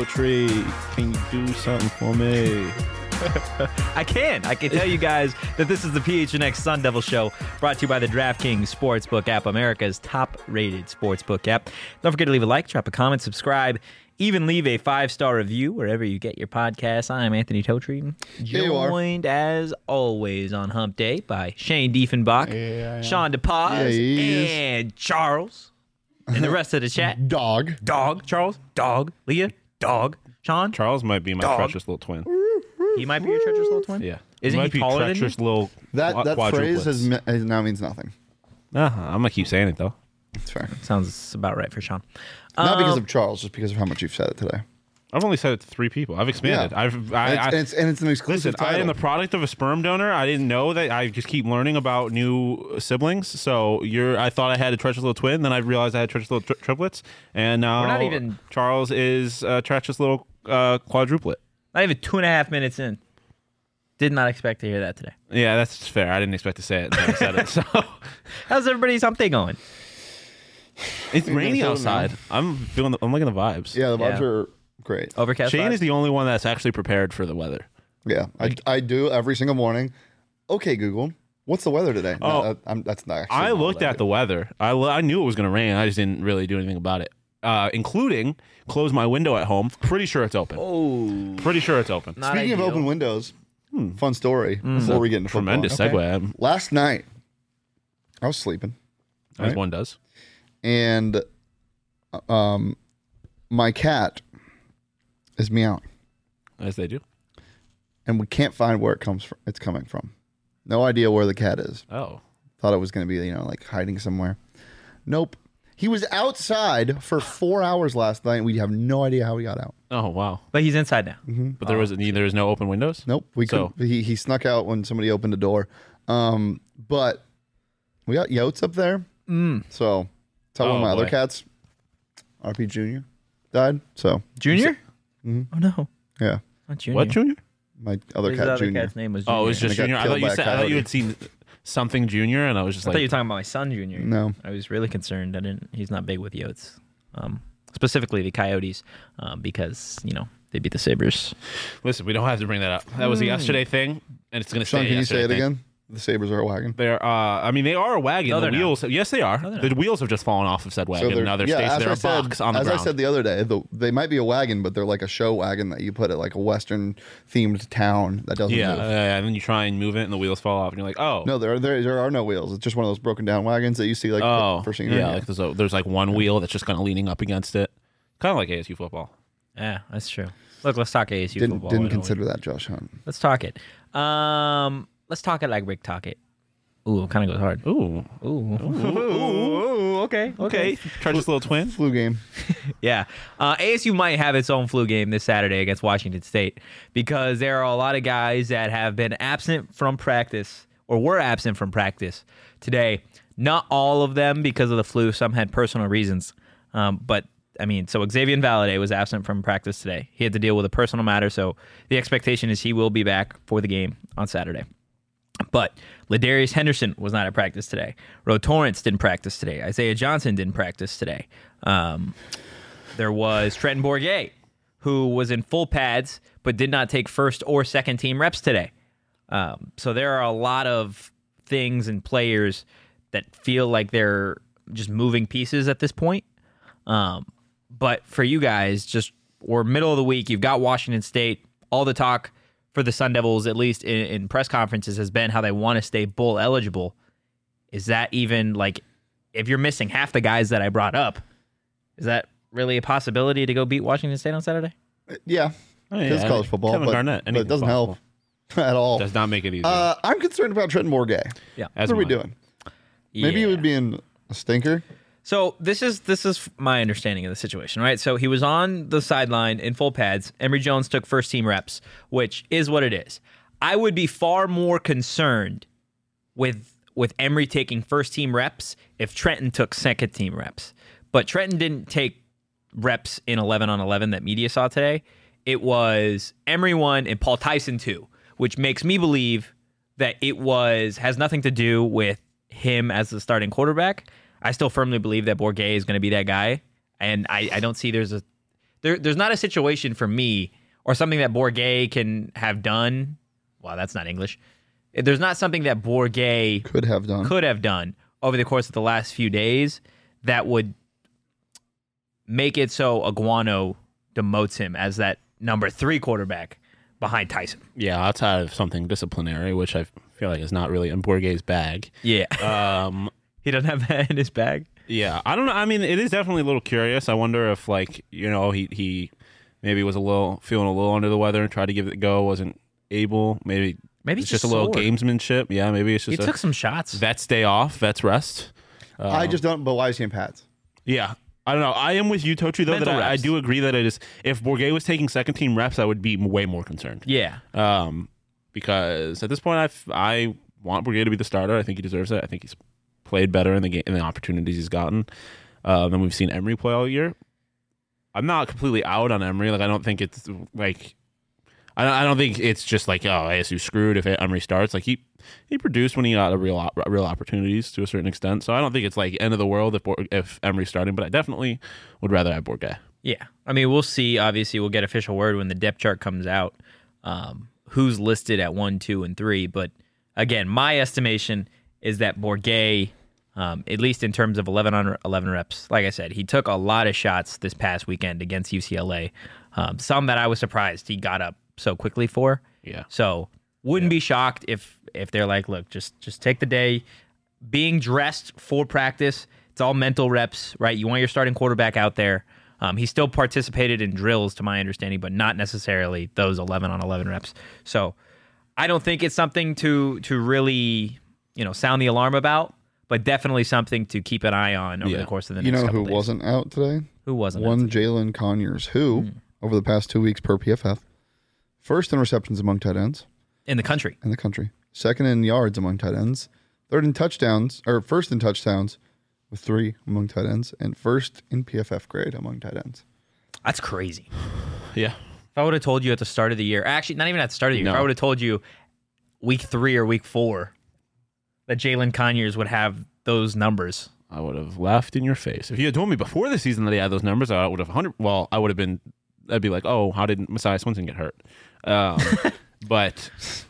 Toe Tree, can you do something for me? I can tell you guys that this is the PHNX Sun Devil Show, brought to you by the DraftKings Sportsbook app, America's top-rated sportsbook app. Don't forget to leave a like, drop a comment, subscribe, even leave a 5-star review wherever you get your podcasts. I'm Anthony Totri, joined as always on Hump Day by Shane Diefenbach, Sean DePaz, and Charles, and the rest of the chat. Dog, Charles, Dog, Leah, Dog, Sean. Charles might be my treacherous little twin. He might be your treacherous little twin? Yeah. Isn't he taller than you? Treacherous little that phrase now means nothing. I'm going to keep saying it, though. It's fair. Sounds about right for Sean. Not because of Charles, just because of how much you've said it today. I've only said it to 3 people. I've expanded. Yeah. It's an exclusive title. I am the product of a sperm donor. I didn't know that. I just keep learning about new siblings. So I thought I had a treacherous little twin. Then I realized I had treacherous little triplets. And now We're not even... Charles is a treacherous little quadruplet. Not even 2.5 minutes in. Did not expect to hear that today. Yeah, that's fair. I didn't expect to say it until I said it. So, how's everybody's hump day going? It's rainy outside. I'm liking the vibes. Yeah, the vibes are great. Overcast. Shane vibes? is the only one that's actually prepared for the weather. Yeah, I do every single morning. Okay, Google, what's the weather today? Oh, that's not actually. I looked at the weather. I knew it was going to rain. I just didn't really do anything about it. Including close my window at home. Pretty sure it's open. Oh. Pretty sure it's open. Not Speaking ideal. of open windows, fun story before we get into football. Tremendous segue. Last night, I was sleeping. As one does. And my cat is meowing. As they do. And we can't find where it's coming from. No idea where the cat is. Oh. Thought it was going to be, like hiding somewhere. Nope. He was outside for 4 hours last night, and we have no idea how he got out. Oh, wow. But he's inside now. But there was no open windows? Nope. He snuck out when somebody opened the door. But we got Yotes up there. So tell one of my other cats, RP Jr., died. So Junior? Oh, no. Yeah. Not Junior. What, Junior? My other His cat, other Junior. cat's name was Junior. Oh, it was just And it Junior. got I thought killed by a you coyote. had seen something Junior, and I was just I thought you were like, talking about my son, Junior. No. I was really concerned. He's not big with Yotes. Specifically the Coyotes, because, they beat the Sabres. listen, we don't have to bring that up. That was a yesterday thing, and it's going to stay Sean, can you say it thing. again? The Sabres are a wagon. They're, they are a wagon. No, The they're wheels, yes, they are. No, they're The wheels have just fallen off of said wagon. Now they're stationed. They're a box on the as ground. I said the other day, they might be a wagon, but they're like a show wagon that you put at like a Western themed town that doesn't move. And then you try and move it, and the wheels fall off, and you're like, oh. No, there are no wheels. It's just one of those broken down wagons that you see like for scenery. yeah. Like there's like one wheel that's just kind of leaning up against it, kind of like ASU football. Yeah, that's true. Look, let's talk ASU Didn't football. Why don't we? consider that, Josh Hunt. Let's talk it. Let's talk it like Rick talk it. Ooh, kind of goes hard. Ooh. Ooh, okay. Treacherous little twin. Flu game. Yeah. ASU might have its own flu game this Saturday against Washington State because there are a lot of guys that have been absent from practice or were absent from practice today. Not all of them because of the flu. Some had personal reasons. But, so Xavier Valade was absent from practice today. He had to deal with a personal matter, so the expectation is he will be back for the game on Saturday. But Ladarius Henderson was not at practice today. Ro Torrance didn't practice today. Isaiah Johnson didn't practice today. There was Trenton Bourguet, who was in full pads but did not take first or second team reps today. So there are a lot of things and players that feel like they're just moving pieces at this point. But for you guys, we're middle of the week. You've got Washington State. All the talk for the Sun Devils, at least in press conferences, has been how they want to stay bowl eligible. Is that even if you're missing half the guys that I brought up, is that really a possibility to go beat Washington State on Saturday? Yeah. It's college football. Kevin but, Garnett, but it doesn't help at all. Does not make it easy. I'm concerned about Trenton Bourguet. Yeah. What are we doing? Maybe he would be in a stinker. So this is my understanding of the situation, right? So he was on the sideline in full pads. Emory Jones took first team reps, which is what it is. I would be far more concerned with Emory taking first team reps if Trenton took second team reps. But Trenton didn't take reps in 11 on 11 that media saw today. It was Emory 1 and Paul Tyson 2, which makes me believe that has nothing to do with him as the starting quarterback. I still firmly believe that Bourguet is going to be that guy, and I don't see there's there's not a situation for me or something that Bourguet can have done. Well, that's not English. There's not something that Bourguet Could have done over the course of the last few days that would make it so Iguano demotes him as that number 3 quarterback behind Tyson. Yeah, outside of something disciplinary, which I feel like is not really in Bourguet's bag. Yeah. He doesn't have that in his bag. Yeah, I don't know. I mean, it is definitely a little curious. I wonder if, like, he maybe was feeling a little under the weather and tried to give it a go, wasn't able. Maybe Maybe it's just a little gamesmanship. Yeah, maybe it's just he took some shots. Vets day off, vets rest. I just don't. But why is he in pads? Yeah. I don't know. I am with you, Tochi, though, Mental that I reps. do agree that it is. If Bourguet was taking second-team reps, I would be way more concerned. Yeah. Because at this point, I want Bourguet to be the starter. I think he deserves it. I think he's played better in the game, in the opportunities he's gotten than we've seen Emery play all year. I'm not completely out on Emery. Like, I don't think it's like I don't think it's just like, oh, ASU screwed if Emery starts. Like, he produced when he got real opportunities to a certain extent. So I don't think it's like end of the world if Emery's starting. But I definitely would rather have Bourguet. Yeah. I mean, we'll see. Obviously, we'll get official word when the depth chart comes out. Who's listed at 1, 2, and 3. But again, my estimation is that Bourguet, at least in terms of 11 on 11 reps, like I said, he took a lot of shots this past weekend against UCLA. Some that I was surprised he got up so quickly for. Yeah. So wouldn't be shocked if they're like, look, just take the day. Being dressed for practice, it's all mental reps, right? You want your starting quarterback out there. He still participated in drills, to my understanding, but not necessarily those 11 on 11 reps. So I don't think it's something to really, sound the alarm about, but definitely something to keep an eye on over the course of the next couple who days. wasn't out today? Who wasn't One out today? Jalen Conyers, who over the past 2 weeks per PFF, first in receptions among tight ends In the country. in the country, second in yards among tight ends, first in touchdowns with 3 among tight ends, and first in PFF grade among tight ends. That's crazy. Yeah. If I would have told you at the start of the year, actually, not even at the start of the year, No. if I would have told you week 3 or week 4 that Jalen Conyers would have those numbers. I would have laughed in your face. If you had told me before the season that he had those numbers, I would have I'd be like, oh, how did Messiah Swinson get hurt? But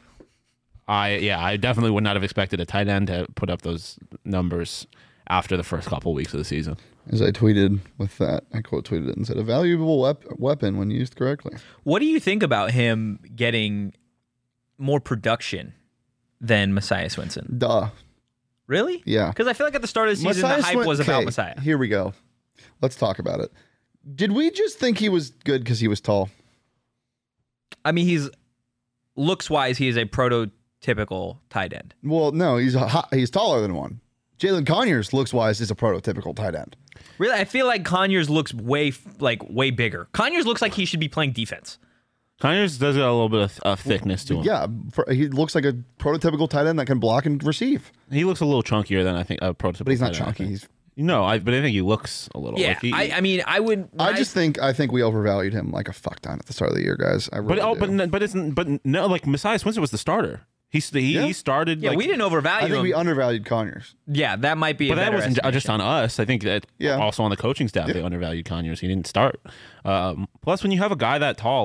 I definitely would not have expected a tight end to put up those numbers after the first couple weeks of the season. As I tweeted with that, I quote tweeted it and said, a valuable weapon when used correctly. What do you think about him getting more production than Messiah Swinson? Duh. Really? Yeah. Because I feel like at the start of the season, the hype was about Messiah. Here we go. Let's talk about it. Did we just think he was good because he was tall? I mean, looks-wise, he is a prototypical tight end. Well, no, he's taller than one. Jalen Conyers, looks-wise, is a prototypical tight end. Really, I feel like Conyers looks way bigger. Conyers looks like he should be playing defense. Conyers does got a little bit of thickness to him. Yeah, he looks like a prototypical tight end that can block and receive. He looks a little chunkier than I think a prototypical. But he's not tight end, I chunky. think. But I think he looks a little. Yeah, like I mean, I would. I think we overvalued him like a fuck ton at the start of the year, guys. I really do. but like Messiah Swinson was the starter. He started. Yeah, like, we didn't overvalue I think him. we undervalued Conyers. Yeah, that might be. But a that better wasn't estimation. just on us. I think that also on the coaching staff they undervalued Conyers. He didn't start. Plus, when you have a guy that tall,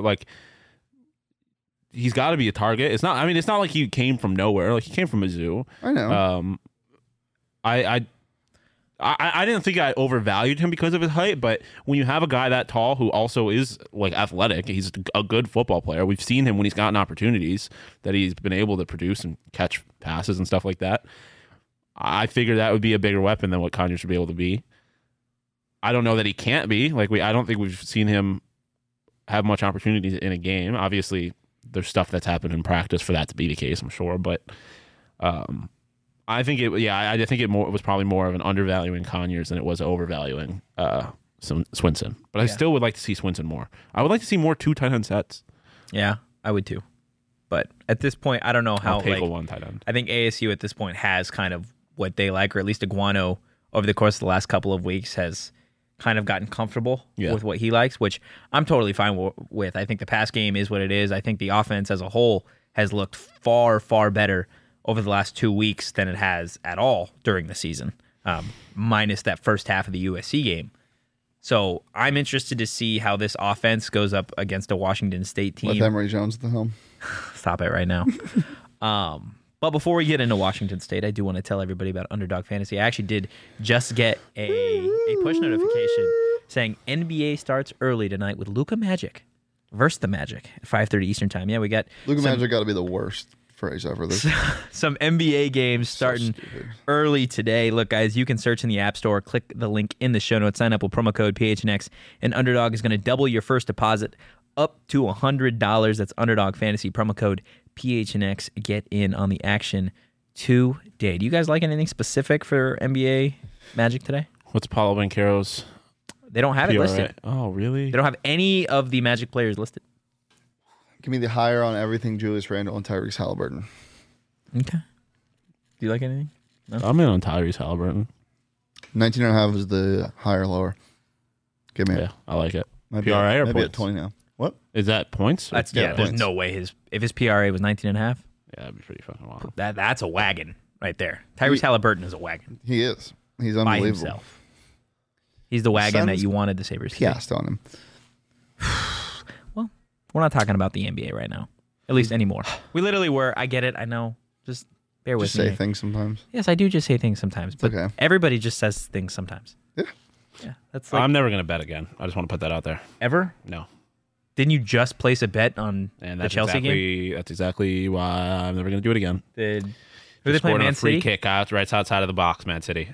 he's got to be a target. It's not. I mean, it's not like he came from nowhere. Like he came from Mizzou. I know. I didn't think I overvalued him because of his height, but when you have a guy that tall who also is like athletic, he's a good football player. We've seen him when he's gotten opportunities that he's been able to produce and catch passes and stuff like that. I figured that would be a bigger weapon than what Conyers should be able to be. I don't know that he can't be. I don't think we've seen him have much opportunities in a game. Obviously, there's stuff that's happened in practice for that to be the case, I'm sure, but I think it was probably more of an undervaluing Conyers than it was overvaluing Swinson. But I still would like to see Swinson more. I would like to see more 2 tight end sets. Yeah, I would too. But at this point, I don't know how. I'll take a 1 tight end. I think ASU at this point has kind of what they like, or at least Iguano over the course of the last couple of weeks has kind of gotten comfortable with what he likes, which I'm totally fine with. I think the pass game is what it is. I think the offense as a whole has looked far, far better over the last 2 weeks than it has at all during the season, minus that first half of the USC game. So I'm interested to see how this offense goes up against a Washington State team. With Emory Jones at the helm. Stop it right now. But before we get into Washington State, I do want to tell everybody about Underdog Fantasy. I actually did just get a push notification saying NBA starts early tonight with Luka Magic versus the Magic at 5:30 Eastern Time. Yeah, we got Luka Magic got to be the worst phrase ever. some NBA games starting early today. Look, guys, you can search in the App Store, click the link in the show notes, sign up with promo code PHNX, and Underdog is going to double your first deposit up to $100. That's Underdog Fantasy, promo code PHNX. Get in on the action today. Do you guys like anything specific for NBA Magic today? What's Paulo Banchero's? They don't have it listed. Oh, really? They don't have any of the Magic players listed. Give me the higher on everything Julius Randle and Tyrese Halliburton. Okay. Do you like anything? No? I'm in on Tyrese Halliburton. 19.5 is the higher lower. Give me it. Yeah, I like it. Might PRA or maybe points? at 20 now. What? Is that points? That's Yeah, there's points. no way if his PRA was 19.5, Yeah, that'd be pretty fucking wild. that's a wagon right there. Tyrese Halliburton is a wagon He is. He's by unbelievable. himself. He's the wagon that Suns you wanted the Sabres to be. Piast on him. Well, we're not talking about the NBA right now, at least anymore. We literally were. I get it. I know. Just bear with Just me. say things sometimes. Yes, I do just say things sometimes, but okay. everybody just says things sometimes. Yeah. Yeah, that's like I'm never going to bet again. I just want to put that out there. ever. No. Didn't you just place a bet on And the that's Chelsea game? That's exactly why I'm never going to do it again. Who they Just play? scored on Man a free City. kick out right outside of the box, Man City.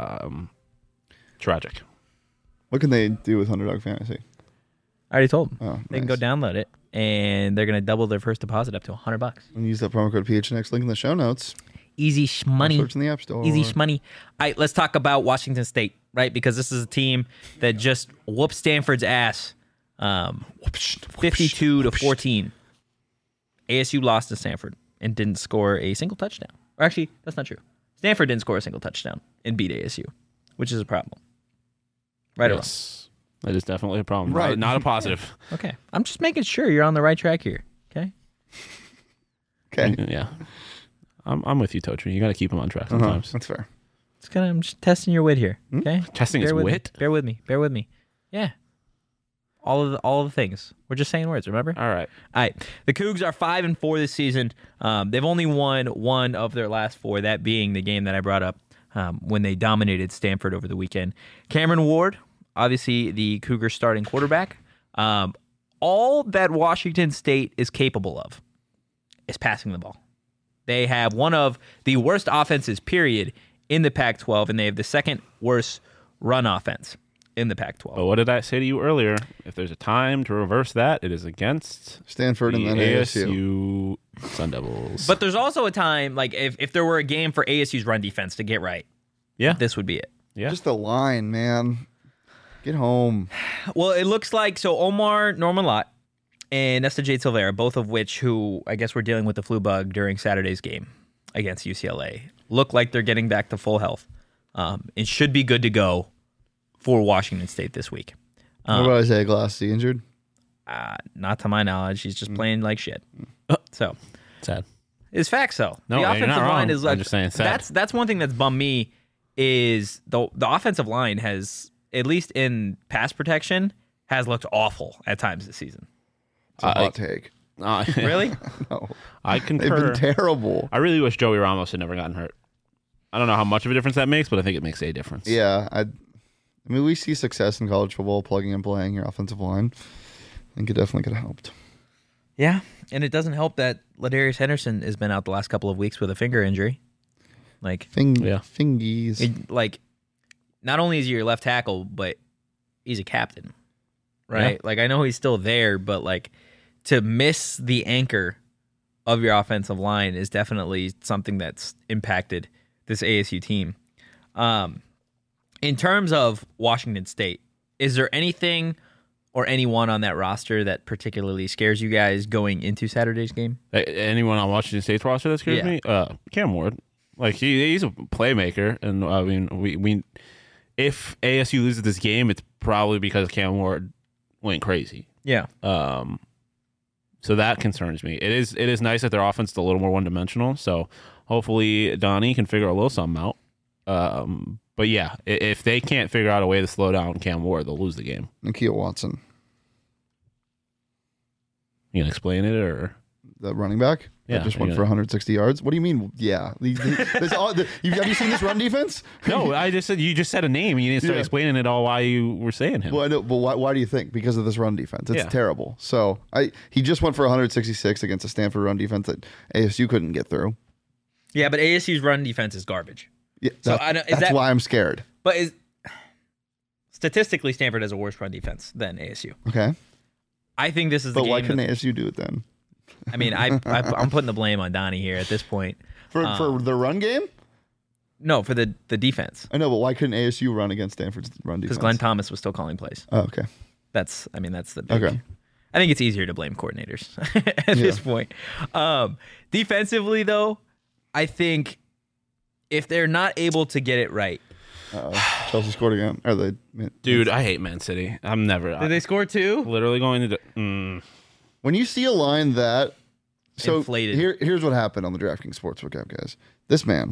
Tragic. What can they do with Underdog Fantasy? I already told them. Oh, They can go download it, and they're gonna double their first deposit up to $100. And use that promo code PHNX link in the show notes. Easy money. Search in the App Store. Easy money. All right, let's talk about Washington State, right? Because this is a team that just whooped Stanford's ass, 52-14. ASU lost to Stanford and didn't score a single touchdown. Or actually, that's not true. Stanford didn't score a single touchdown and beat ASU, which is a problem. Right Yes. That is definitely a problem. Right. Not a positive. or wrong? Okay. I'm just making sure you're on the right track here. Okay. Okay. Yeah. I'm with you, Totri. You got to keep him on track sometimes. That's fair. I'm just testing your wit here. Okay. Testing his Bear with wit? Me. Bear with me. Yeah. All of the things. We're just saying words, remember? All right. All right. The Cougs are 5-4 this season. They've only won one of their last four, that being the game that I brought up when they dominated Stanford over the weekend. Cameron Ward, obviously the Cougars starting quarterback. All that Washington State is capable of is passing the ball. They have one of the worst offenses, period, in the Pac-12, and they have the second worst run offense in the Pac-12. But what did I say to you earlier? If there's a time to reverse that, it is against Stanford the and then ASU. Sun Devils. But there's also a time, like if there were a game for ASU's run defense to get right, yeah, this would be it. yeah. Just the line, man. Get home. Well, it looks like Omar Norman-Lott and Nesta Jade Silvera, both of which who I guess were dealing with the flu bug during Saturday's game against UCLA, look like they're getting back to full health. It should be good to go for Washington State this week. What about Isaiah Glass? Is he injured? Not to my knowledge. He's just playing like shit. So Sad. it's facts though. No, the you're offensive not line wrong. is like I'm just saying sad. that's one thing that's bummed me is the offensive line has, at least in pass protection, has looked awful at times this season. It's a hot take. Really? No. I They've concur. been terrible. I really wish Joey Ramos had never gotten hurt. I don't know how much of a difference that makes, but I think it makes a difference. Yeah. I mean, we see success in college football plugging and playing your offensive line. I think it definitely could have helped. Yeah, and it doesn't help that Ladarius Henderson has been out the last couple of weeks with a finger injury. Like, Fingies. like, not only is he your left tackle, but he's a captain, right? Yeah. Like, I know he's still there, but like, to miss the anchor of your offensive line is definitely something that's impacted this ASU team. In terms of Washington State, is there anything or anyone on that roster that particularly scares you guys going into Saturday's game? Anyone on Washington State's roster that scares me? Cam Ward. Like he's a playmaker, and I mean, we if ASU loses this game, it's probably because Cam Ward went crazy. Yeah. So that concerns me. It is nice that their offense is a little more one dimensional. So hopefully Donnie can figure a little something out. But yeah, if they can't figure out a way to slow down Cam Ward, they'll lose the game. Nikhil Watson, You can explain it, or the running back. Yeah, That just went for 160 yards. What do you mean? Yeah. Have you seen this run defense? no, I just said you just said a name. And you didn't start Yeah. explaining it all why you were saying him. Well, I know, but why do you think? Because of this run defense. It's Yeah. terrible. So he just went for 166 against a Stanford run defense that ASU couldn't get through. Yeah, but ASU's run defense is garbage. Yeah, So that's why I'm scared. But statistically, Stanford has a worse run defense than ASU. Okay. I think this is the But game. why couldn't ASU do it then? I mean, I'm putting the blame on Donnie here at this point. For the run game? No, for the defense. I know, but why couldn't ASU run against Stanford's run defense? Because Glenn Thomas was still calling plays. Oh, okay. That's the big. Okay. I think it's easier to blame coordinators at this point. Defensively, though, I think if they're not able to get it right. Chelsea scored again. Dude, I hate Man City. I'm never. Did they score two? Literally going to. When you see a line that Inflated. here's what happened on the DraftKings Sportsbook app, guys. This man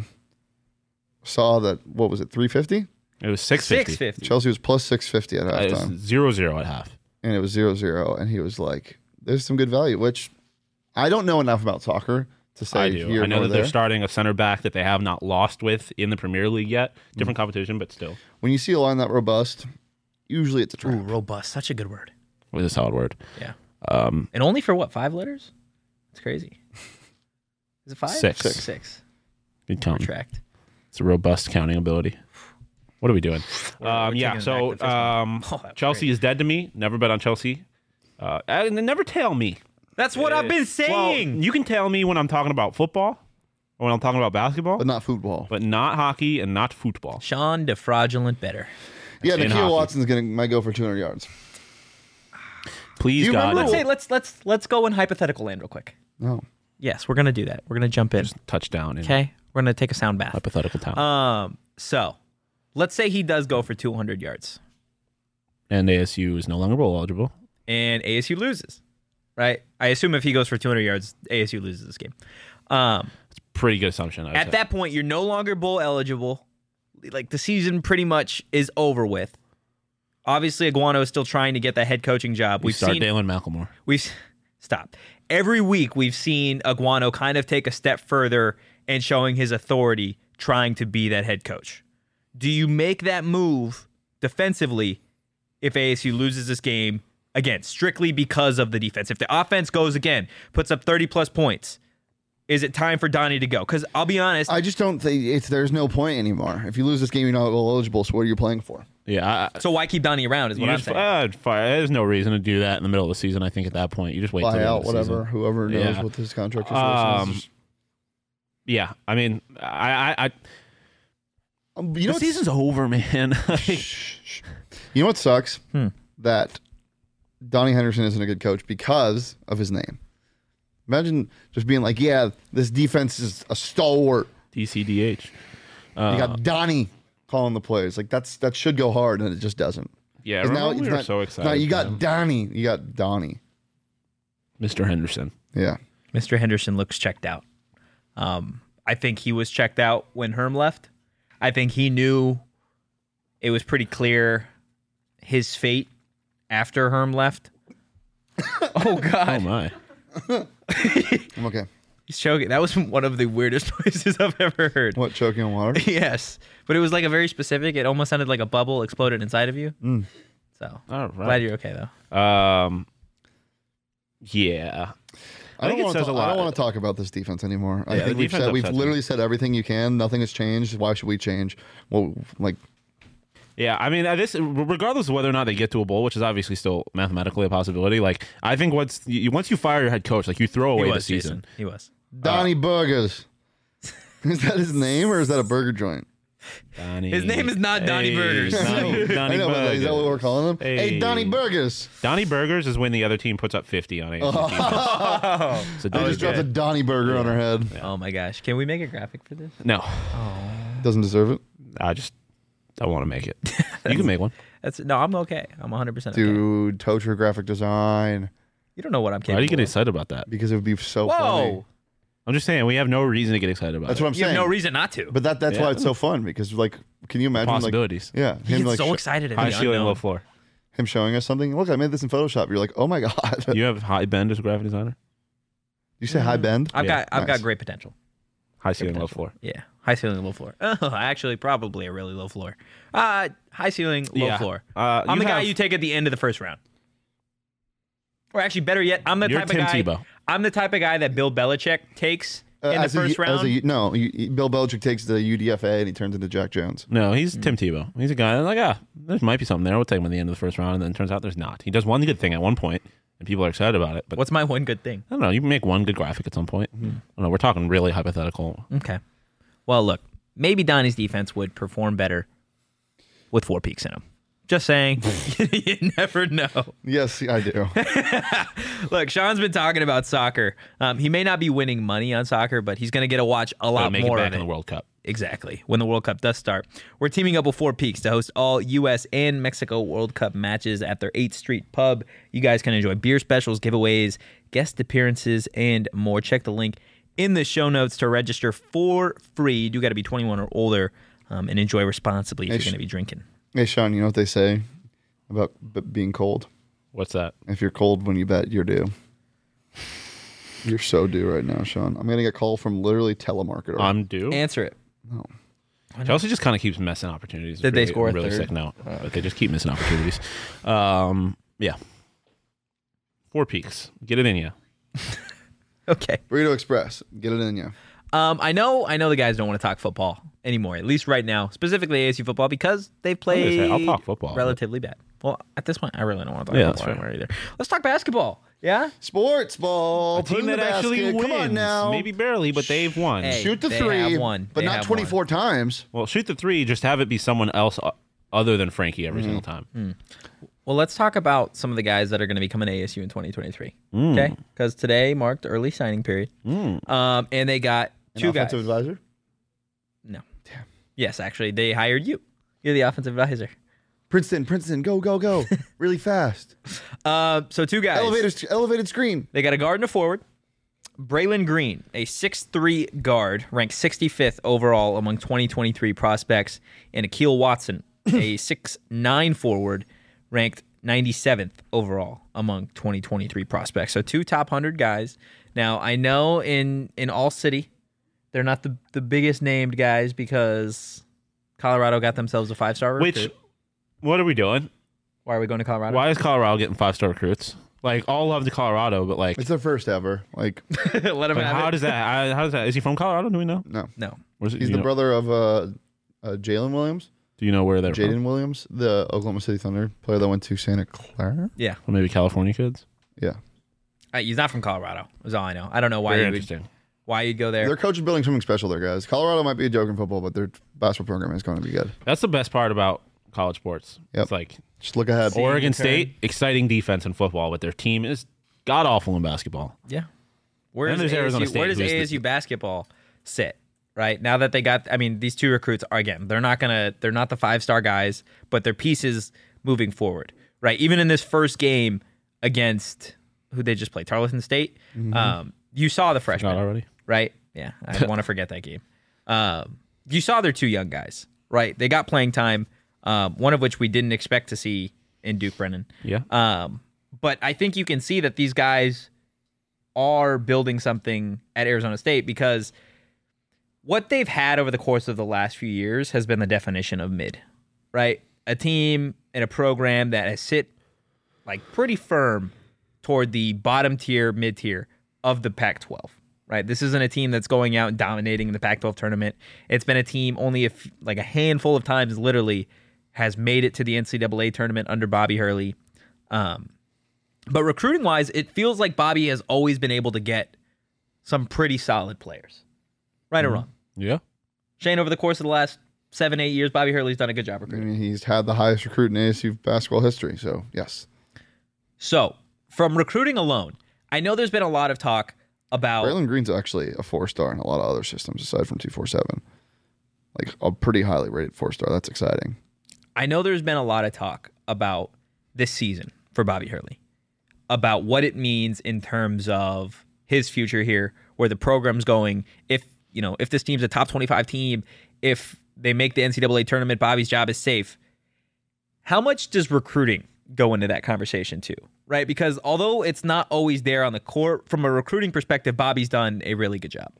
saw that, what was it, 350? It was 650. 650. Chelsea was plus 650 at It was halftime. 0-0 at half. And it was 0-0. And he was like, there's some good value, which I don't know enough about soccer to say I do. here I know nor that they're there. starting a center back that they have not lost with in the Premier League yet. Different competition, but still. When you see a line that robust, usually it's a trap. Ooh, robust. Such a good word. With a solid word. Yeah. And only for what, 5 letters? It's crazy. Is it 5? 6. 6. Good count. Retract. It's a robust counting ability. What are we doing? We're Yeah, taking so back the first one. Oh, that was Chelsea great. is dead to me. Never bet on Chelsea. And never tail me. That's what I've been saying. Well, you can tail me when I'm talking about football or when I'm talking about basketball, But not football. but not hockey and not football. Sean, the fraudulent better. Yeah, in Nikhil hockey. Watson's might go for 200 yards. Please, Do you God, remember Let's go in hypothetical land real quick. No. Yes, we're gonna do that. We're gonna jump in. touchdown in Okay, we're gonna take a sound bath. hypothetical town. So let's say he does go for 200 yards And ASU is no longer bowl eligible. and ASU loses, right? I assume if he goes for 200 yards, ASU loses this game. Pretty good assumption. I would At say. that point, you're no longer bowl eligible. Like the season pretty much is over with. Obviously, Iguano is still trying to get that head coaching job. we start Dalen McLemore. Stop. Every week we've seen Iguano kind of take a step further and showing his authority, trying to be that head coach. Do you make that move defensively if ASU loses this game, again, strictly because of the defense? If the offense goes again, puts up 30-plus points, is it time for Donnie to go? Because I'll be honest. I just don't think there's no point anymore. If you lose this game, you're not bowl eligible, so what are you playing for? Yeah. So why keep Donnie around is what I'm saying. There's no reason to do that in the middle of the season, I think, at that point. You just wait till Buy the end out, of the whatever, season. whoever knows Yeah. what his contract situation is. Yeah, I mean, You know the what's- season's over, man. You know what sucks? That Donnie Henderson isn't a good coach because of his name. Imagine just being like, yeah, this defense is a stalwart. DCDH. You got Donnie calling the plays. Like that should go hard, and it just doesn't. Yeah, 'Cause remember we it's were not- so it's excited. not, you for got him. Donnie. You got Donnie. Mr. Henderson. Yeah. Mr. Henderson looks checked out. I think he was checked out when Herm left. I think he knew it was pretty clear his fate after Herm left. Oh, Oh, God. my. I'm okay. He's choking. That was one of the weirdest noises I've ever heard. What, choking on water? Yes. But it was like a very specific, it almost sounded like a bubble exploded inside of you. So, All glad right. you're okay, though. Yeah. I think don't it says a lot. want to talk about this defense anymore. I Yeah, think the defense we've upsets me. literally said everything you can. Nothing has changed. Why should we change? Well, like, Yeah, I mean, this regardless of whether or not they get to a bowl, which is obviously still mathematically a possibility. Like, I think once you fire your head coach, like you throw away He the was, season. Jason. He was. Donnie Burgers. Is that his name or is that a burger joint? Donnie, His name is not Donnie Burgers. Donnie, Donnie I know, but is that what Burgers. we're calling him? Hey, Donnie Burgers. Donnie Burgers is when the other team puts up 50 on ASU. So I Donnie just dropped a Burgers. Donnie Burger on her head. Oh, my gosh. Can we make a graphic for this? No, Doesn't deserve it. I just don't want to make it. You can make one. No, I'm okay. I'm 100% okay. Dude, Tocher graphic design. You don't know what I'm capable Why do you get of. excited about that? Because it would be so Whoa. funny. I'm just saying we have no reason to get excited about That's it. what I'm You saying. have no reason not to. But that's why it's so fun because like, can you imagine Possibilities. Like, yeah, He him gets like so excited at High the ceiling, unknown. low floor. him showing us something. Look, I made this in Photoshop. You're like, oh my god. You have high bend as a graphic designer. You say high bend? I've Yeah, got nice. great potential. High ceiling, low floor. Yeah, high ceiling, low floor. Oh, actually, probably a really low floor. High ceiling, low Yeah. floor. You I'm the guy have- you take at the end of the first round. Or actually, better yet, I'm the You're type Tim of guy. Tebow. I'm the type of guy that Bill Belichick takes in the As a- first round. no, Bill Belichick takes the UDFA and he turns into Jack Jones. No, he's Tim Tebow. He's a guy that's like, there might be something there. We'll take him at the end of the first round, and then it turns out there's not. He does one good thing at one point, and people are excited about it. But What's my one good thing? I don't know. You can make one good graphic at some point. I don't know. We're talking really hypothetical. Okay. Well, look, maybe Donnie's defense would perform better with 4 peaks in him. Just saying. You never know. Yes, I do. Look, Sean's been talking about soccer. He may not be winning money on soccer, but he's going to get to watch a Gotta lot make more it back of in it. the World Cup. Exactly. When the World Cup does start. We're teaming up with 4 Peaks to host all U.S. and Mexico World Cup matches at their 8th Street pub. You guys can enjoy beer specials, giveaways, guest appearances, and more. Check the link in the show notes to register for free. You do got to be 21 or older and enjoy responsibly if you're going to be drinking. Hey, Sean, you know what they say about being cold? What's that? If you're cold when you bet, you're due. You're so due right now, Sean. I'm getting a call from literally telemarketer. I'm due. Answer it. Chelsea just kind of keeps missing opportunities. Did they Really- score a really third? sick note, but they just keep missing opportunities. Yeah. 4 peaks. Get it in you. Okay. Burrito Express. Get it in you. I know the guys don't want to talk football anymore, at least right now, specifically ASU football, because they've played I'll talk football. relatively bad. Well, at this point, I really don't want to talk Yeah, that's football fair. anymore either. Let's talk basketball. Yeah? Sports ball. A Put team in the that actually basket. wins. Come on now. Maybe barely, but they've won. Hey. Shoot the They three, have won. but They not have 24 times. Well, shoot the 3. Just have it be someone else other than Frankie every single time. Well, let's talk about some of the guys that are going to be coming to ASU in 2023. Okay? Because today marked early signing period. And they got An 2 guys. offensive advisor. No. Yes, actually, they hired you. You're the offensive advisor. Princeton, go, go, go. Really fast. So 2 guys. Elevated screen. They got a guard and a forward. Braylon Green, a 6'3 guard, ranked 65th overall among 2023 prospects, and Akeel Watson, a 6'9 forward, ranked 97th overall among 2023 prospects. So 2 top 100 guys. Now, I know in All City, they're not the biggest named guys because Colorado got themselves a 5-star recruit. What are we doing? Why are we going to Colorado? Why is Colorado getting 5-star recruits? Like, all love to Colorado, but like, It's their first ever. Like, Let him have how it. does that? How does that? Is he from Colorado? Do we know? no. No. Where's it, He's do the you know- brother of Jalen Williams. Do you know where they're Jaden from? Williams, the Oklahoma City Thunder player that went to Santa Clara. Yeah. Or maybe California kids. Yeah. He's not from Colorado, is all I know. I don't know why Very you would, interesting. why you'd go there. Their coach is building something special there, guys. Colorado might be a joke in football, but their basketball program is going to be good. That's the best part about college sports. Yep. It's like Just look ahead. Oregon turn. State, exciting defense in football, but their team is god awful in basketball. Yeah. Where Then does there's Arizona State, Where does who's the- ASU basketball sit? Right now that they got, I mean, these 2 recruits are again, they're not the 5-star guys, but they're pieces moving forward. Right, even in this first game against who they just played, Tarleton State. You saw the freshmen Not already. right? Yeah, I want to forget that game. You saw their 2 young guys, right? They got playing time, one of which we didn't expect to see in Duke Brennan. Yeah. But I think you can see that these guys are building something at Arizona State because what they've had over the course of the last few years has been the definition of mid, right? A team and a program that has sit like pretty firm toward the bottom tier, mid tier of the Pac-12, right? This isn't a team that's going out and dominating the Pac-12 tournament. It's been a team only a handful of times literally has made it to the NCAA tournament under Bobby Hurley. But recruiting-wise, it feels like Bobby has always been able to get some pretty solid players. Right or wrong? Yeah. Shane, over the course of the last 7-8 years, Bobby Hurley's done a good job I recruiting. mean, he's had the highest recruit in ASU basketball history. So, yes. So, from recruiting alone, I know there's been a lot of talk about... Braylon Green's actually a 4-star in a lot of other systems aside from 247. Like a pretty highly rated 4-star. That's exciting. I know there's been a lot of talk about this season for Bobby Hurley, about what it means in terms of his future here, where the program's going. If this team's a top 25 team, if they make the NCAA tournament, Bobby's job is safe. How much does recruiting go into that conversation too, right? Because although it's not always there on the court, from a recruiting perspective, Bobby's done a really good job.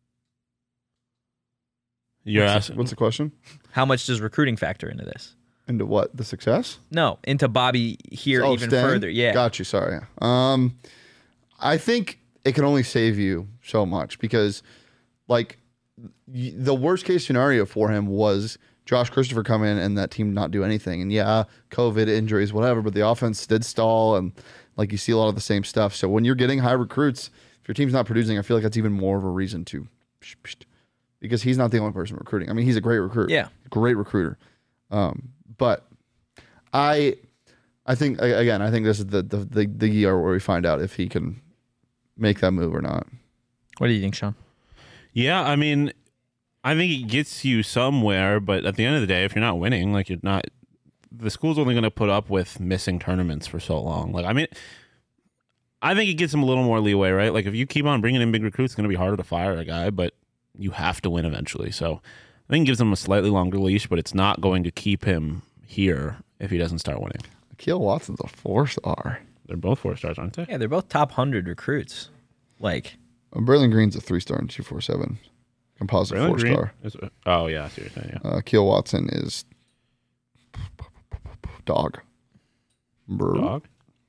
You're asking, what's the question? How much does recruiting factor into this? Into what? The success? No, into Bobby here even staying? further. Yeah. Got you. Sorry. I think it can only save you so much because, like, the worst case scenario for him was Josh Christopher come in and that team not do anything. And yeah, COVID, injuries, whatever, but the offense did stall and like you see a lot of the same stuff. So when you're getting high recruits, if your team's not producing, I feel like that's even more of a reason to, because he's not the only person recruiting. I mean, he's a great recruiter. Yeah. Great recruiter. But I think, again, I think this is the year where we find out if he can make that move or not. What do you think, Sean? Yeah, I mean, I think it gets you somewhere, but at the end of the day, if you're not winning, like the school's only going to put up with missing tournaments for so long. Like, I mean, I think it gives him a little more leeway, right? Like, if you keep on bringing in big recruits, it's going to be harder to fire a guy, but you have to win eventually. So I think it gives him a slightly longer leash, but it's not going to keep him here if he doesn't start winning. Akil Watson's a 4-star. They're both 4 stars, aren't they? Yeah, they're both top 100 recruits. Like, Berlin Green's a 3-star and 247. Composite Braylon 4-star. Oh, yeah, I see what you're saying, yeah. Akil Watson is dog. Dog?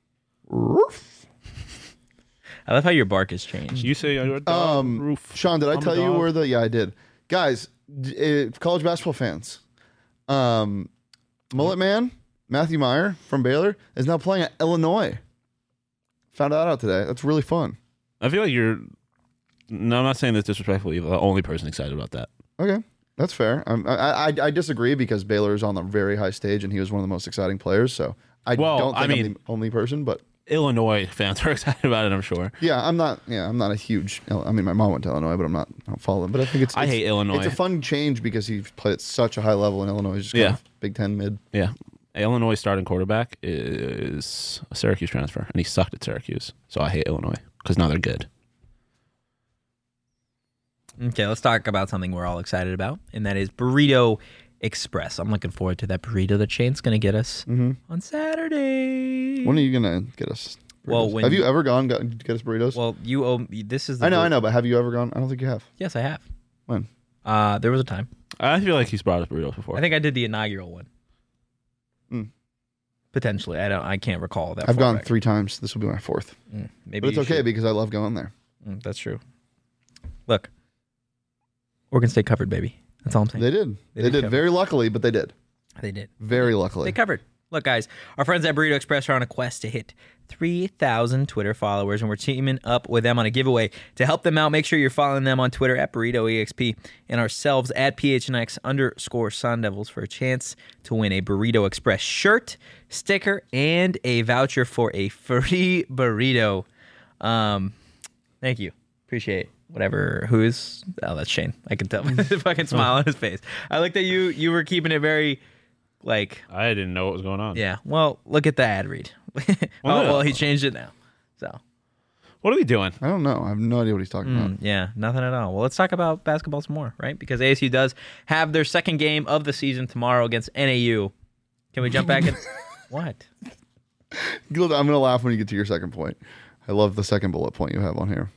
I love how your bark has changed. You say you're a dog roof. Sean, did I I'm tell a you dog. where the... Yeah, I did. Guys, college basketball fans. Mullet Man, Matthew Meyer from Baylor, is now playing at Illinois. Found that out today. That's really fun. I feel like you're... No, I'm not saying this disrespectfully. You're the only person excited about that. Okay, that's fair. I disagree because Baylor is on the very high stage and he was one of the most exciting players. So I don't think I'm the only person, but Illinois fans are excited about it, I'm sure. yeah, I'm not a huge. I mean, my mom went to Illinois, but I don't follow him. But I think I hate Illinois. It's a fun change because he's played at such a high level in Illinois. He's just kind of Big Ten mid. Yeah. Illinois starting quarterback is a Syracuse transfer, and he sucked at Syracuse. So I hate Illinois because now they're good. Okay, let's talk about something we're all excited about, and that is Burrito Express. I'm looking forward to that burrito that Shane's going to get us on Saturday. When are you going to get us burritos? Well, have you ever gone to get us burritos? Well, you owe me. This is. I know, but have you ever gone? I don't think you have. Yes, I have. When? There was a time. I feel like he's brought us burritos before. I think I did the inaugural one. Potentially, I can't recall that. I've gone 3 times. This will be my 4th. Maybe, but it's okay because I love going there. That's true. Look, Oregon State covered, baby. That's all I'm saying. They did. They did very luckily, but they did. They did. Very luckily. They covered. Look, guys, our friends at Burrito Express are on a quest to hit 3,000 Twitter followers, and we're teaming up with them on a giveaway. To help them out, make sure you're following them on Twitter at BurritoEXP and ourselves at PHNX_Sun Devils for a chance to win a Burrito Express shirt, sticker, and a voucher for a free burrito. Thank you. Appreciate it. Whatever. Who is? Oh, that's Shane. I can tell by the fucking smile on his face. I like that you were keeping it very, like. I didn't know what was going on. Yeah. Well, look at the ad read. Well, he changed it now. So. What are we doing? I don't know. I have no idea what he's talking about. Yeah, nothing at all. Well, let's talk about basketball some more, right? Because ASU does have their second game of the season tomorrow against NAU. Can we jump back in? What? I'm going to laugh when you get to your second point. I love the second bullet point you have on here.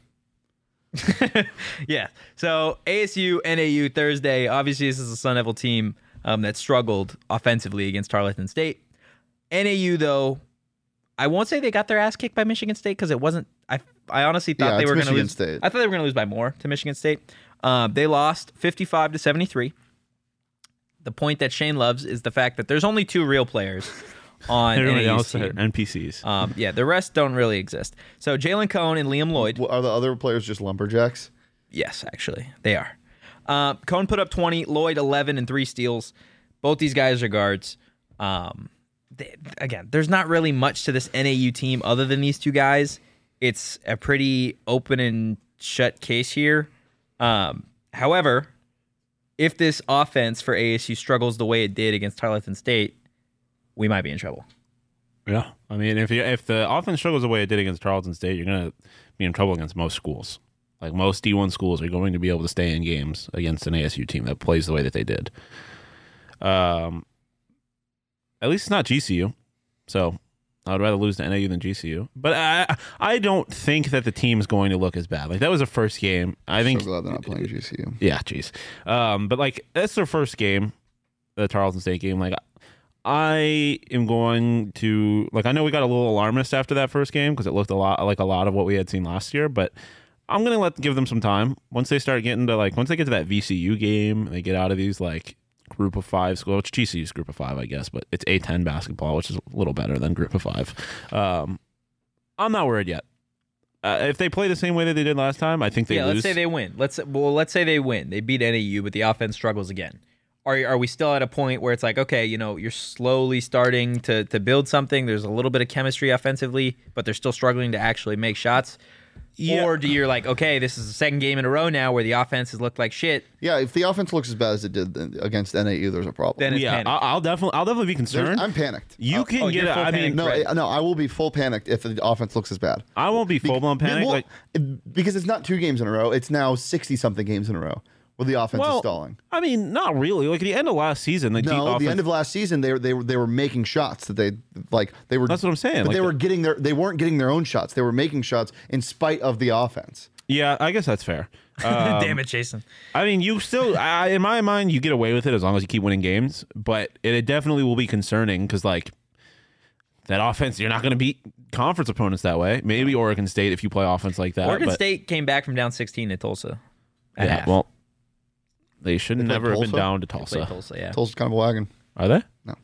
Yeah. So ASU, NAU Thursday. Obviously, this is a Sun Devil team that struggled offensively against Tarleton State. NAU, though, I won't say they got their ass kicked by Michigan State because it wasn't. I honestly thought they were going to lose. State. I thought they were going to lose by more to Michigan State. They lost 55-73. The point that Shane loves is the fact that there's only 2 real players on Everybody NAU's else team. are NPCs. Yeah, the rest don't really exist. So Jalen Cohn and Liam Lloyd. Are the other players just lumberjacks? Yes, actually, they are. Cohn put up 20, Lloyd 11 and 3 steals. Both these guys are guards. Again, there's not really much to this NAU team other than these 2 guys. It's a pretty open and shut case here. However, if this offense for ASU struggles the way it did against Tarleton State, we might be in trouble. Yeah. I mean, if the offense struggles the way it did against Tarleton State, you're going to be in trouble against most schools. Like most D1 schools are going to be able to stay in games against an ASU team that plays the way that they did. At least it's not GCU. So I would rather lose to NAU than GCU. But I don't think that the team is going to look as bad. Like that was their first game. I think. So glad they're not playing GCU. Yeah, jeez. But like that's their first game, the Tarleton State game. Like I am going to I know we got a little alarmist after that first game because it looked a lot like a lot of what we had seen last year, but I'm gonna give them some time. Once they start getting to once they get to that VCU game, they get out of these group of 5 school. It's GCU's group of 5, I guess, but it's A10 basketball, which is a little better than group of 5. I'm not worried yet. If they play the same way that they did last time, I think they lose. Let's say they win. Let's say they win. They beat NAU, but the offense struggles again. Are we still at a point where it's like, okay, you're slowly starting to build something. There's a little bit of chemistry offensively, but they're still struggling to actually make shots? Yeah. Or do you're like, okay, this is the second game in a row now where the offense has looked like shit. Yeah, if the offense looks as bad as it did against NAU, there's a problem. Then it's panic. I'll definitely be concerned. I'm panicked. You can get it. I mean, no, I will be full panicked if the offense looks as bad. I won't be full blown panicked. Because it's not 2 games in a row. It's now 60 something games in a row where the offense is stalling. I mean, not really. Like at the end of last season, the end of last season, they were making shots that they were. That's what I'm saying. But they weren't getting their own shots. They were making shots in spite of the offense. Yeah, I guess that's fair. Damn it, Jason. I mean, you still, in my mind, you get away with it as long as you keep winning games. But it definitely will be concerning because that offense, you're not going to beat conference opponents that way. Maybe Oregon State if you play offense like that. Oregon State came back from down 16 at Tulsa. Well. They should never have been down to Tulsa. Tulsa, yeah. Tulsa's kind of a wagon. Are they? No.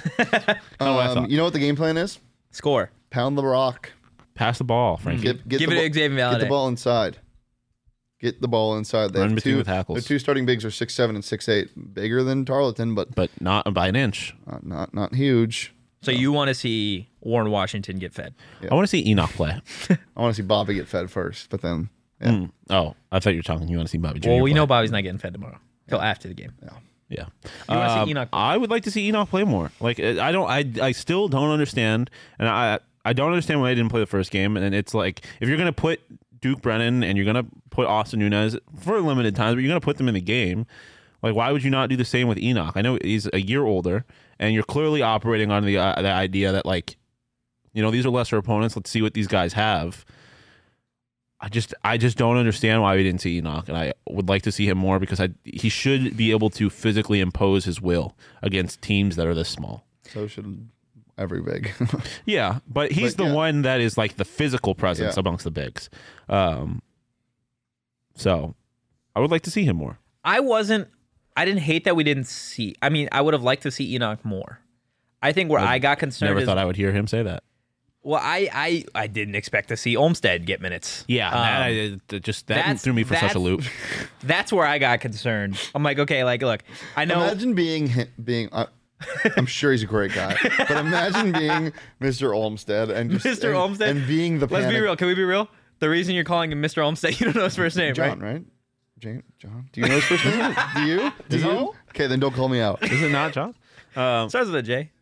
Oh. You know what the game plan is? Score. Pound the rock. Pass the ball, Frankie. Give it to Xavier Valade. Get the ball inside. Get the ball inside. Run between the tackles. Their 2 starting bigs are 6'7" and 6'8", bigger than Tarleton, but not by an inch. Not huge. So you want to see Warren Washington get fed? Yeah. I want to see Enoch play. I want to see Bobby get fed first, but then. Yeah. Oh, I thought you were talking. You want to see Bobby Jr. Well, we play. know Bobby's not getting fed tomorrow. Till after the game. Yeah. You want to see Enoch play? I would like to see Enoch play more. I still don't understand, and I don't understand why he didn't play the first game. And it's like if you're gonna put Duke Brennan and you're gonna put Austin Nunez for limited times, but you're gonna put them in the game. Like, why would you not do the same with Enoch? I know he's a year older, and you're clearly operating on the idea that these are lesser opponents. Let's see what these guys have. I just don't understand why we didn't see Enoch, and I would like to see him more because he should be able to physically impose his will against teams that are this small. So should every big. Yeah, but he's the one that is like the physical presence amongst the bigs. So I would like to see him more. I didn't hate that we didn't see. I mean, I would have liked to see Enoch more. I think where I got concerned Never thought I would hear him say that. Well, I didn't expect to see Olmstead get minutes. Yeah, that threw me for such a loop. That's where I got concerned. I'm like, okay, look, I know. Imagine being I'm sure he's a great guy, but imagine being Mr. Olmstead and Mr. Olmstead and being the. Let's be real. Can we be real? The reason you're calling him Mr. Olmstead, you don't know his first name, John, right? John. Do you know his first name? Do you? Do you? Okay, then don't call me out. Is it not John? Starts with a J.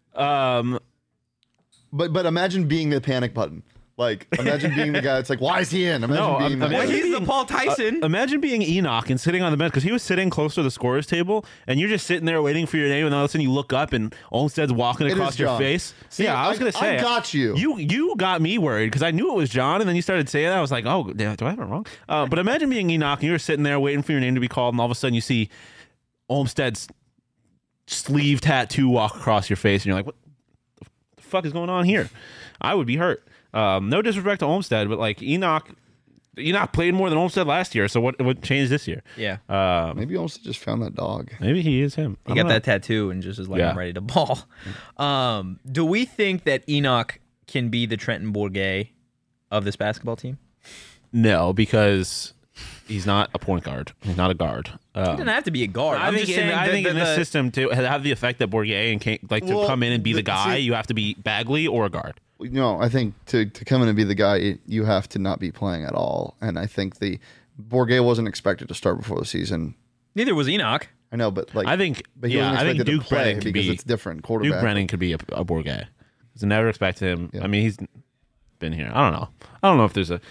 But imagine being the panic button. Like, imagine being the guy that's like, why is he in? He's the Paul Tyson. Imagine being Enoch and sitting on the bench because he was sitting close to the scorer's table, and you're just sitting there waiting for your name, and all of a sudden you look up and Olmstead's walking across your face. See, I was going to say, I got you. You got me worried because I knew it was John, and then you started saying that. I was like, oh, do I have it wrong? But imagine being Enoch and you were sitting there waiting for your name to be called, and all of a sudden you see Olmstead's sleeve tattoo walk across your face, and you're like, what the fuck is going on here? I would be hurt. No disrespect to Olmstead, but Enoch played more than Olmstead last year. So what changed this year? Yeah. Maybe Olmstead just found that dog. Maybe he is him. He got that tattoo and just is I'm ready to ball. Do we think that Enoch can be the Trenton Bourget of this basketball team? No, because he's not a point guard. He's not a guard. He doesn't have to be a guard. I think in this system to have the effect that Bourget and to come in and be the guy, you have to be Bagley or a guard. No, I think to come in and be the guy, you have to not be playing at all. And I think Bourget wasn't expected to start before the season. Neither was Enoch. I know, but I think Duke Brennan could be it's different. Quarterback. Duke Brennan could be a Bourget. I never expected him. Yeah. I mean, he's been here. I don't know if there's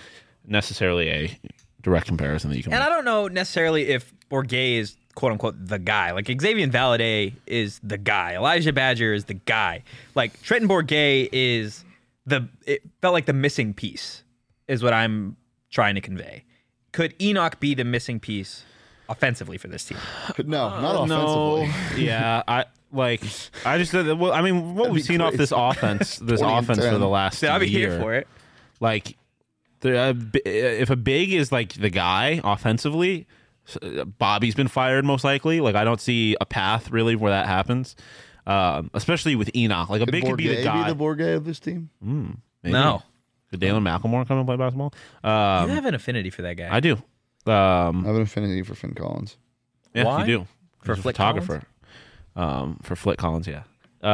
necessarily a direct comparison that you can And make. I don't know necessarily if Bourget is quote unquote the guy. Like Xavier Valade is the guy. Elijah Badger is the guy. Like Trenton Bourget is it felt like the missing piece is what I'm trying to convey. Could Enoch be the missing piece offensively for this team? No, not offensively. Yeah, I just well, I mean, what That'd we've be seen off crazy. this offense 20 and for 10. the last So I'll be year, here for it. like if a big is like the guy offensively, Bobby's been fired most likely. Like I don't see a path really where that happens, especially with Enoch. Like a big could be the guy. Be the Bourget of this team? Maybe. No. Could Dalen McLemore come and play basketball? You have an affinity for that guy. I do. I have an affinity for Finn Collins. Yeah, Why? you do. For He's a Flick photographer. For Flick Collins, yeah.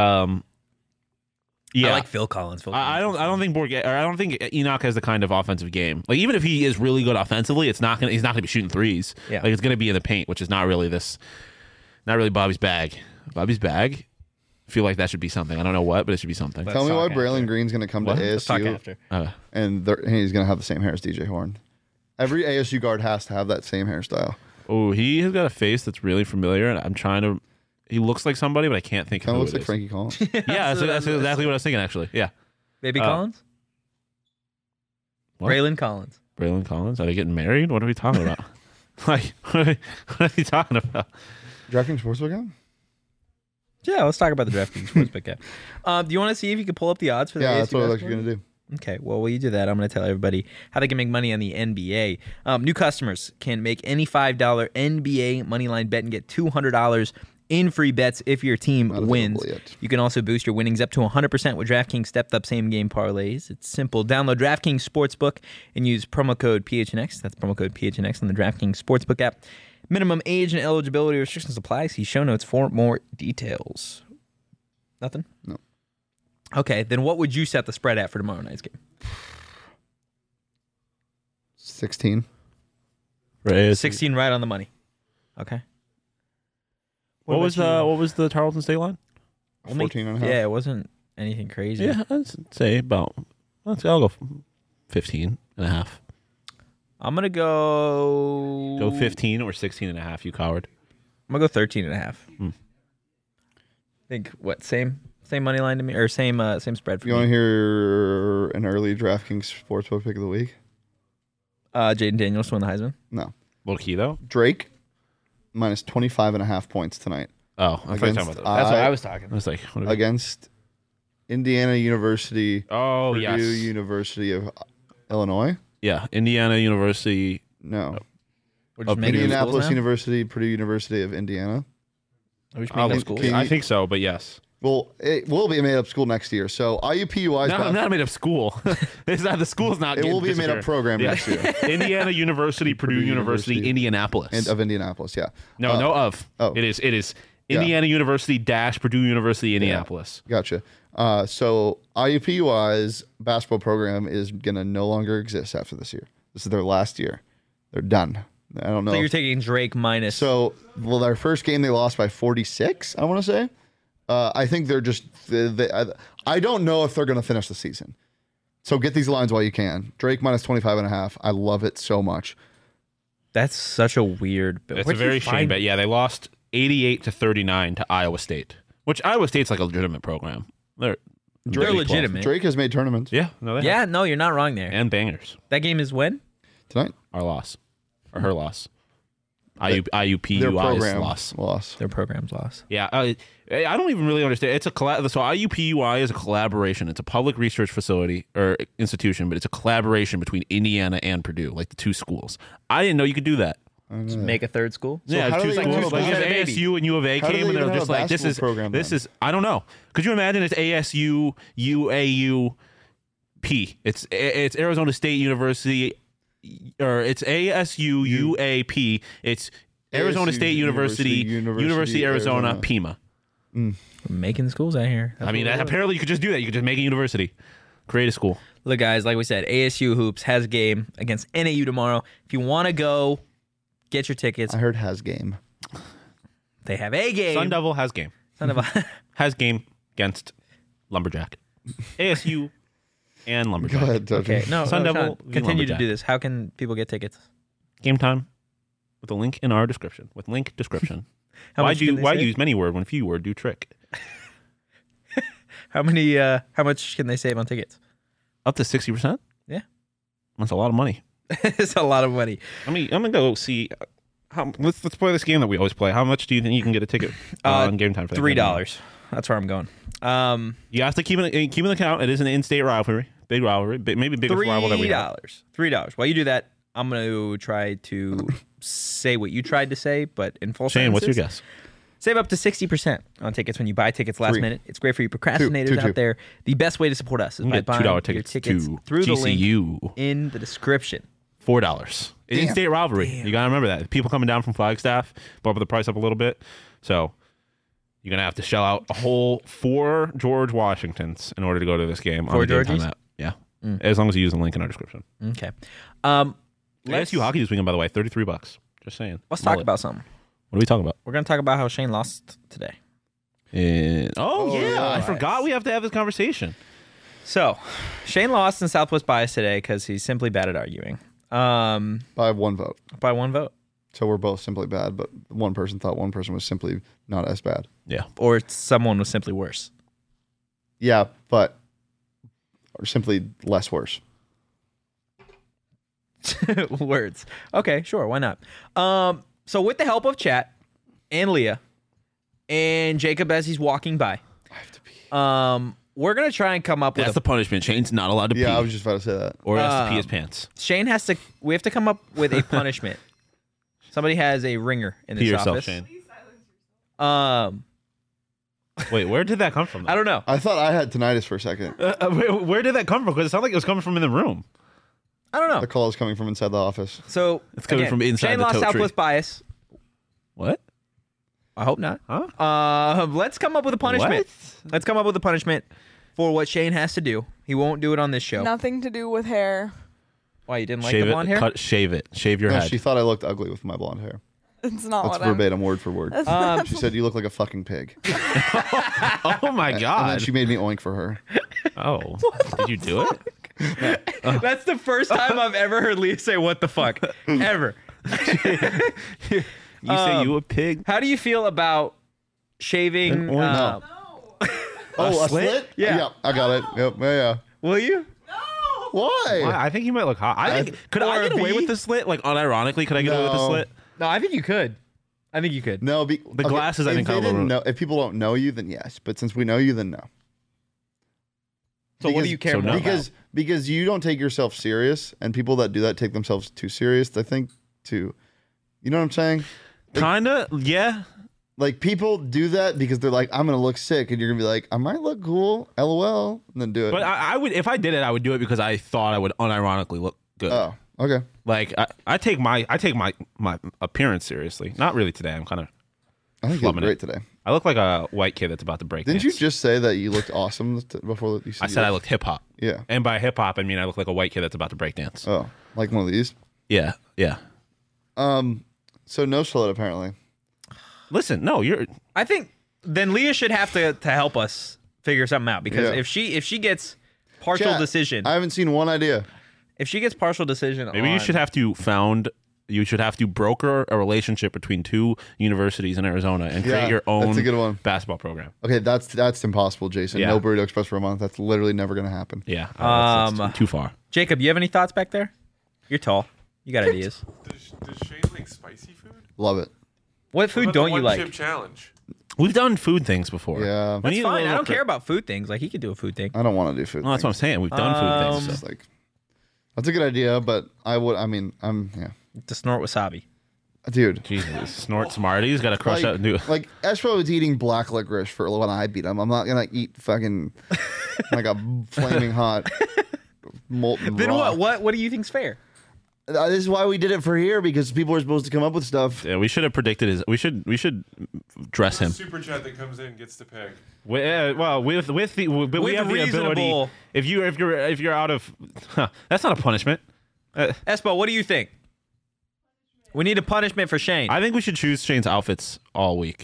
I like Phil Collins. I don't think Bourget, or I don't think Enoch has the kind of offensive game. Like even if he is really good offensively, he's not gonna be shooting threes. Yeah. Like it's gonna be in the paint, which is not really Bobby's bag. Bobby's bag. I feel like that should be something. I don't know what, but it should be something. Let's Tell me why talk Braylon after. Green's going to come What? to Let's talk ASU after. and he's going to have the same hair as DJ Horn. Every ASU guard has to have that same hairstyle. Oh, he has got a face that's really familiar, and I'm trying to. He looks like somebody, but I can't think Kind of of who looks it like is. Frankie Collins. Yeah, So that's exactly what I was thinking. Actually, yeah. Baby Collins? What? Braylon Collins. Braylon Collins. Are they getting married? What are we talking about? Like, what are you talking about? DraftKings Sportsbook app? Yeah, let's talk about the DraftKings Sportsbook app. Do you want to see if you can pull up the odds for the Yeah, ASU that's what I was basketball? going to do. Okay, well, while you do that, I'm going to tell everybody how they can make money on the NBA. New customers can make any $5 NBA moneyline bet and get $200 in free bets if your team Not wins. available yet. You can also boost your winnings up to 100% with DraftKings stepped up same game parlays. It's simple. Download DraftKings Sportsbook and use promo code PHNX. That's promo code PHNX on the DraftKings Sportsbook app. Minimum age and eligibility restrictions apply. See show notes for more details. Nothing? No. Okay, then what would you set the spread at for tomorrow night's game? 16. 16 right on the money. Okay. What was the Tarleton State line? 14 and a half. Yeah, it wasn't anything crazy. Yeah, I'd say about. I'll go 15 and a half. I'm going to go... Go 15 or 16 and a half, you coward. I'm going to go 13 and a half. I think, what, same money line to me? Or same spread for You want to me? hear an early DraftKings Sportsbook pick of the week? Jaden Daniels to win the Heisman. No. Low key, though. Drake minus 25 and a half points tonight Oh, I thought you were talking Against, about That's that. what I was talking I about. was like, what are we- against Indiana University, oh, Purdue yes. University of Illinois. Yeah, Indiana University. No. We're just making Indianapolis schools now? University, Purdue University of Indiana. Are we just I'll making look- schools? Can I you- think so, but yes. Well, it will be a made up school next year. So IUPUI's No, not made up school. It's not the school's not. it will be a made up program next year Indiana University, Purdue University, University. Indianapolis. and of Indianapolis. Yeah. no, no of. oh. It is Yeah. Indiana University dash Purdue University, Indianapolis. Gotcha. So IUPUI's basketball program is going to no longer exist after this year. This is their last year. They're done. I don't know. So you're taking Drake minus... So, well, their first game they lost by 46, I want to say. I think they're just. I don't know if they're going to finish the season. So get these lines while you can. Drake minus 25 and a half. I love it so much. That's such a weird... It's Where'd a you very shame find- bet. Yeah, they lost 88-39 to Iowa State, which Iowa State's like a legitimate program. They're They're Big 12. legitimate. Drake has made tournaments Yeah, no, they have. Yeah, no, you're not wrong there. And bangers. That game is when? tonight. Our loss, or her loss. Their IUPUI's program loss. Their program's lost. Yeah, I don't even really understand. It's a so IUPUI is a collaboration. It's a public research facility or institution, but it's a collaboration between Indiana and Purdue, like the two schools. I didn't know you could do that. Just make a third school? Yeah, how do two they schools. even Like have if a baby? ASU and U of A How do came they and even they're have just a like, this basketball is program this then? is I don't know. Could you imagine it's ASU UAU P? It's Arizona State University, or it's ASU UAP. It's Arizona ASU State University, University Arizona, Arizona. Pima. Making schools out here. I mean, apparently you could just do that. You could just make a university, create a school. Look, guys, like we said, ASU Hoops has a game against NAU tomorrow. If you want to go, get your tickets. I heard has game. They have a game. Sun Devil has game. Son of a... Has game against Lumberjack. ASU and Lumberjack. Go ahead, Dojo. Okay, no, Sun no, Devil Sean, v. continue to Lumberjack. do this. How can people get tickets? Game time with a link in our description. With link description. How why much can they why save? use many word when few word do trick? How much can they save on tickets? Up to 60%? Yeah. That's a lot of money. It's a lot of money. I'm gonna go see. Let's play this game that we always play. How much do you think you can get a ticket on Game Time for that game? $3. That's where I'm going. You have to keep an account. It is an in-state rivalry, big rivalry, maybe biggest rival that we have. $3. While you do that, I'm going to try to say what you tried to say, but in full Shane, what's your sentences. guess? Save up to 60% on tickets when you buy tickets last 3. minute. It's great for you procrastinators Two. out there. The best way to support us is You by can get buying $2 your tickets tickets to through the link GCU. in the description. $4. In-state rivalry. Damn. You gotta remember that. People coming down from Flagstaff bump the price up a little bit. So you're gonna have to shell out a whole 4 George Washingtons in order to go to this game. 4 on the Game Time Georgies? app. Yeah. As long as you use the link in our description. Okay. ASU hockey this weekend, by the way, $33. Just saying. Let's talk Mullet. about something. What are we talking about? We're going to talk about how Shane lost today. Oh yeah, yeah. I forgot we have to have this conversation. So, Shane lost in Southwest Bias today because he's simply bad at arguing. By 1 vote. By 1 vote. So we're both simply bad, but one person thought one person was simply not as bad. Yeah. Or someone was simply worse. Yeah, but or simply less worse. Words. Okay, sure. Why not? So with the help of chat and Leah and Jacob as he's walking by, I have to pee. we're gonna try and come up That's with the punishment. Shane's not allowed to pee. Yeah, I was just about to say that. Or he has to pee his pants. Shane has to. We have to come up with a punishment. Somebody has a ringer in Pee this yourself, office. Shane. Wait, Where did that come from? I don't know. I thought I had tinnitus for a second. Where did that come from? Because it sounded like it was coming from in the room. I don't know. The call is coming from inside the office. So It's coming again, from inside Shane the lost tote tree. Southwest Bias. What? I hope not. Huh? Let's come up with a punishment. What? Let's come up with a punishment for what Shane has to do. He won't do it on this show. Nothing to do with hair. Why, you didn't like Shave the blonde it. hair? Shave it. Shave your No, head. she thought I looked ugly with my blonde hair. It's not That's what I'm. verbatim, word for word. She said, "You look like a fucking pig." Oh my And then god. she made me oink for her. Oh. Did you do it? That's the first time I've ever heard Leah say "what the fuck" ever. You say you a pig? How do you feel about shaving? An orange. No. Oh, a slit? Yeah. I got it. Yep. Yeah. Will you? Why? I think he might look hot. I think could Or I a get away V? with the slit? Like unironically, could I get away with the No. slit? No, I think you could. I think you could. No, the glasses, I if think, they kind of didn't ruin- know. If people don't know you, then yes. But since we know you, then no. So what do Because- you care so more no. about? Because you don't take yourself serious, and people that do that take themselves too serious. I think too. You know what I'm saying? Kinda, yeah. Like people do that because they're like, I'm gonna look sick, and you're gonna be like, I might look cool, LOL, and then do it. But I would, if I did it, I would do it because I thought I would unironically look good. Oh, okay. Like I take my appearance seriously. Not really today. I'm kind of. I think you look Slumming it. great today. I look like a white kid that's about to break. Didn't dance. you just say that you looked awesome before you said I said I looked hip hop, Yeah. and by hip hop I mean I look like a white kid that's about to break dance. Oh, like one of these. Yeah, yeah. So no slut apparently. Listen, no, you're. I think then Leah should have to help us figure something out because Yeah. if she gets partial Chat, decision, I haven't seen one idea. if she gets partial decision, Maybe you should have to You should have to broker a relationship between 2 universities in Arizona and create Yeah, your own that's a good one. basketball program. Okay, that's impossible, Jason. Yeah. No Burrito Express for a month. That's literally never gonna happen. Yeah, that's too far. Jacob, you have any thoughts back there? You're tall. You got ideas. Does Shane like spicy food? Love it. What food What about don't the you one like? chip challenge? We've done food things before. Yeah. We That's need a fine. little I don't cri- care about food things. Like he could do a food thing. I don't want to do food. No, that's what I'm saying. We've done food It's things. just like that's a good idea, but I'm yeah. To snort wasabi. Dude. Jesus, snort Smarties. Got to crush Like, out and do. like Espo is eating black licorice for when I beat him. I'm not gonna eat fucking like a flaming hot molten Then rock. what do you think's fair? This is why we did it for here because people are supposed to come up with stuff. Yeah, we should have predicted his. We should dress him. Super chat that comes in gets to pick. Well, with the but we With have the reasonable- ability. If you're out of, that's not a punishment. Espo, what do you think? We need a punishment for Shane. I think we should choose Shane's outfits all week.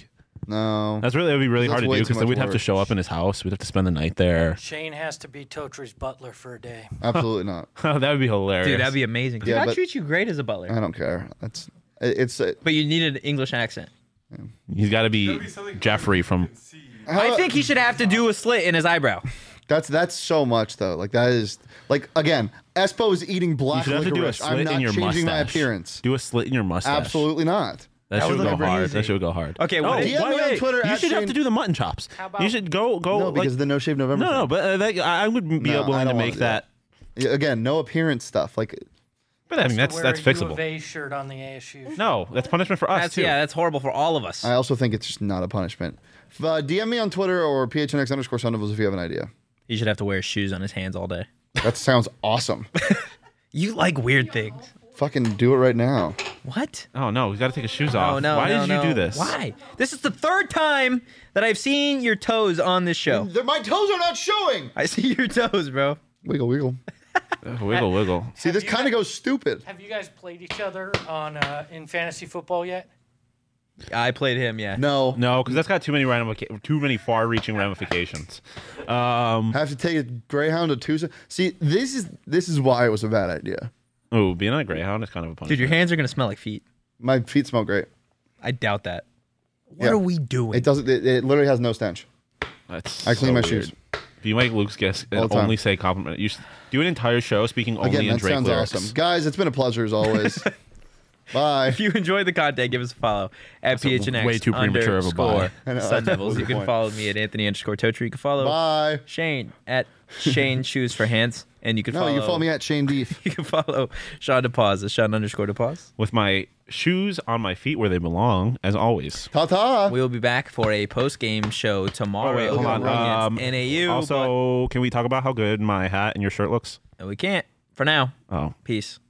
No. That would be really That's hard to way do too because then much we'd have to work. show up in his house. We'd have to spend the night there. Shane has to be Totri's butler for a day. Absolutely not. That would be hilarious. Dude, that'd be amazing. Yeah, Dude, I but- treat you great as a butler. I don't care. It's But you need an English accent. He's got to be Gotta be something Jeffrey from. you can see. I think he should have to do a slit in his eyebrow. That's so much though. Like that is like again, Espo is eating You black should have to do a licorice. I'm slit not in your changing mustache. my appearance. Do a slit in your mustache. Absolutely not. That That should would go look hard. amazing. That should go hard. Okay, No, what DM me on Twitter You at should have Shane- to do the mutton chops. How about- You should go. No, like, because the No Shave November. no, thing. but I would be No, I willing to don't make wanna do that. Yeah, again, no appearance stuff. Like But I mean, that's Wear a U fixable. of A shirt on the ASU. No, that's punishment for us too. That's horrible for all of us. I also think it's just not a punishment. DM me on Twitter or PHNX_Sun if you have an idea. He should have to wear shoes on his hands all day. That sounds awesome. You like weird things. Fucking do it right now. What? Oh no, he's got to take his shoes off. Oh, no, Why no, did you no. do this? Why? This is the third time that I've seen your toes on this show. My toes are not showing. I see your toes, bro. Wiggle, wiggle. Wiggle, wiggle. See, this you kind of goes stupid. Have you guys played each other on in fantasy football yet? I played him, yeah. No. No, because that's got too many far-reaching ramifications. Have to take a Greyhound to Tucson. See, this is why it was a bad idea. Oh, being on a Greyhound is kind of a punishment. Dude, your hands are gonna smell like feet. My feet smell great. I doubt that. What Yeah. are we doing? It doesn't. It literally has no stench. That's I clean so my weird. shoes. If you make Luke's guess All and the time. only say compliment, you should do an entire show speaking only Again, in that Drake sounds lyrics. awesome, guys. It's been a pleasure as always. Bye. If you enjoyed the content, give us a follow at a PHNX. way too premature of a bye. I know, Sun that's Devils. a You good can point. follow me at Anthony_Totri. You can follow Bye. Shane at Shane Shoes for Hands. And you can No, follow you can follow me at Shane Deef. You can follow Sean DePause at Sean_DePause. With my shoes on my feet where they belong, as always. Ta ta. We will be back for a post-game show tomorrow. Oh, wait, hold on. Against NAU. Also, can we talk about how good my hat and your shirt looks? but we can't for now. Oh. Peace.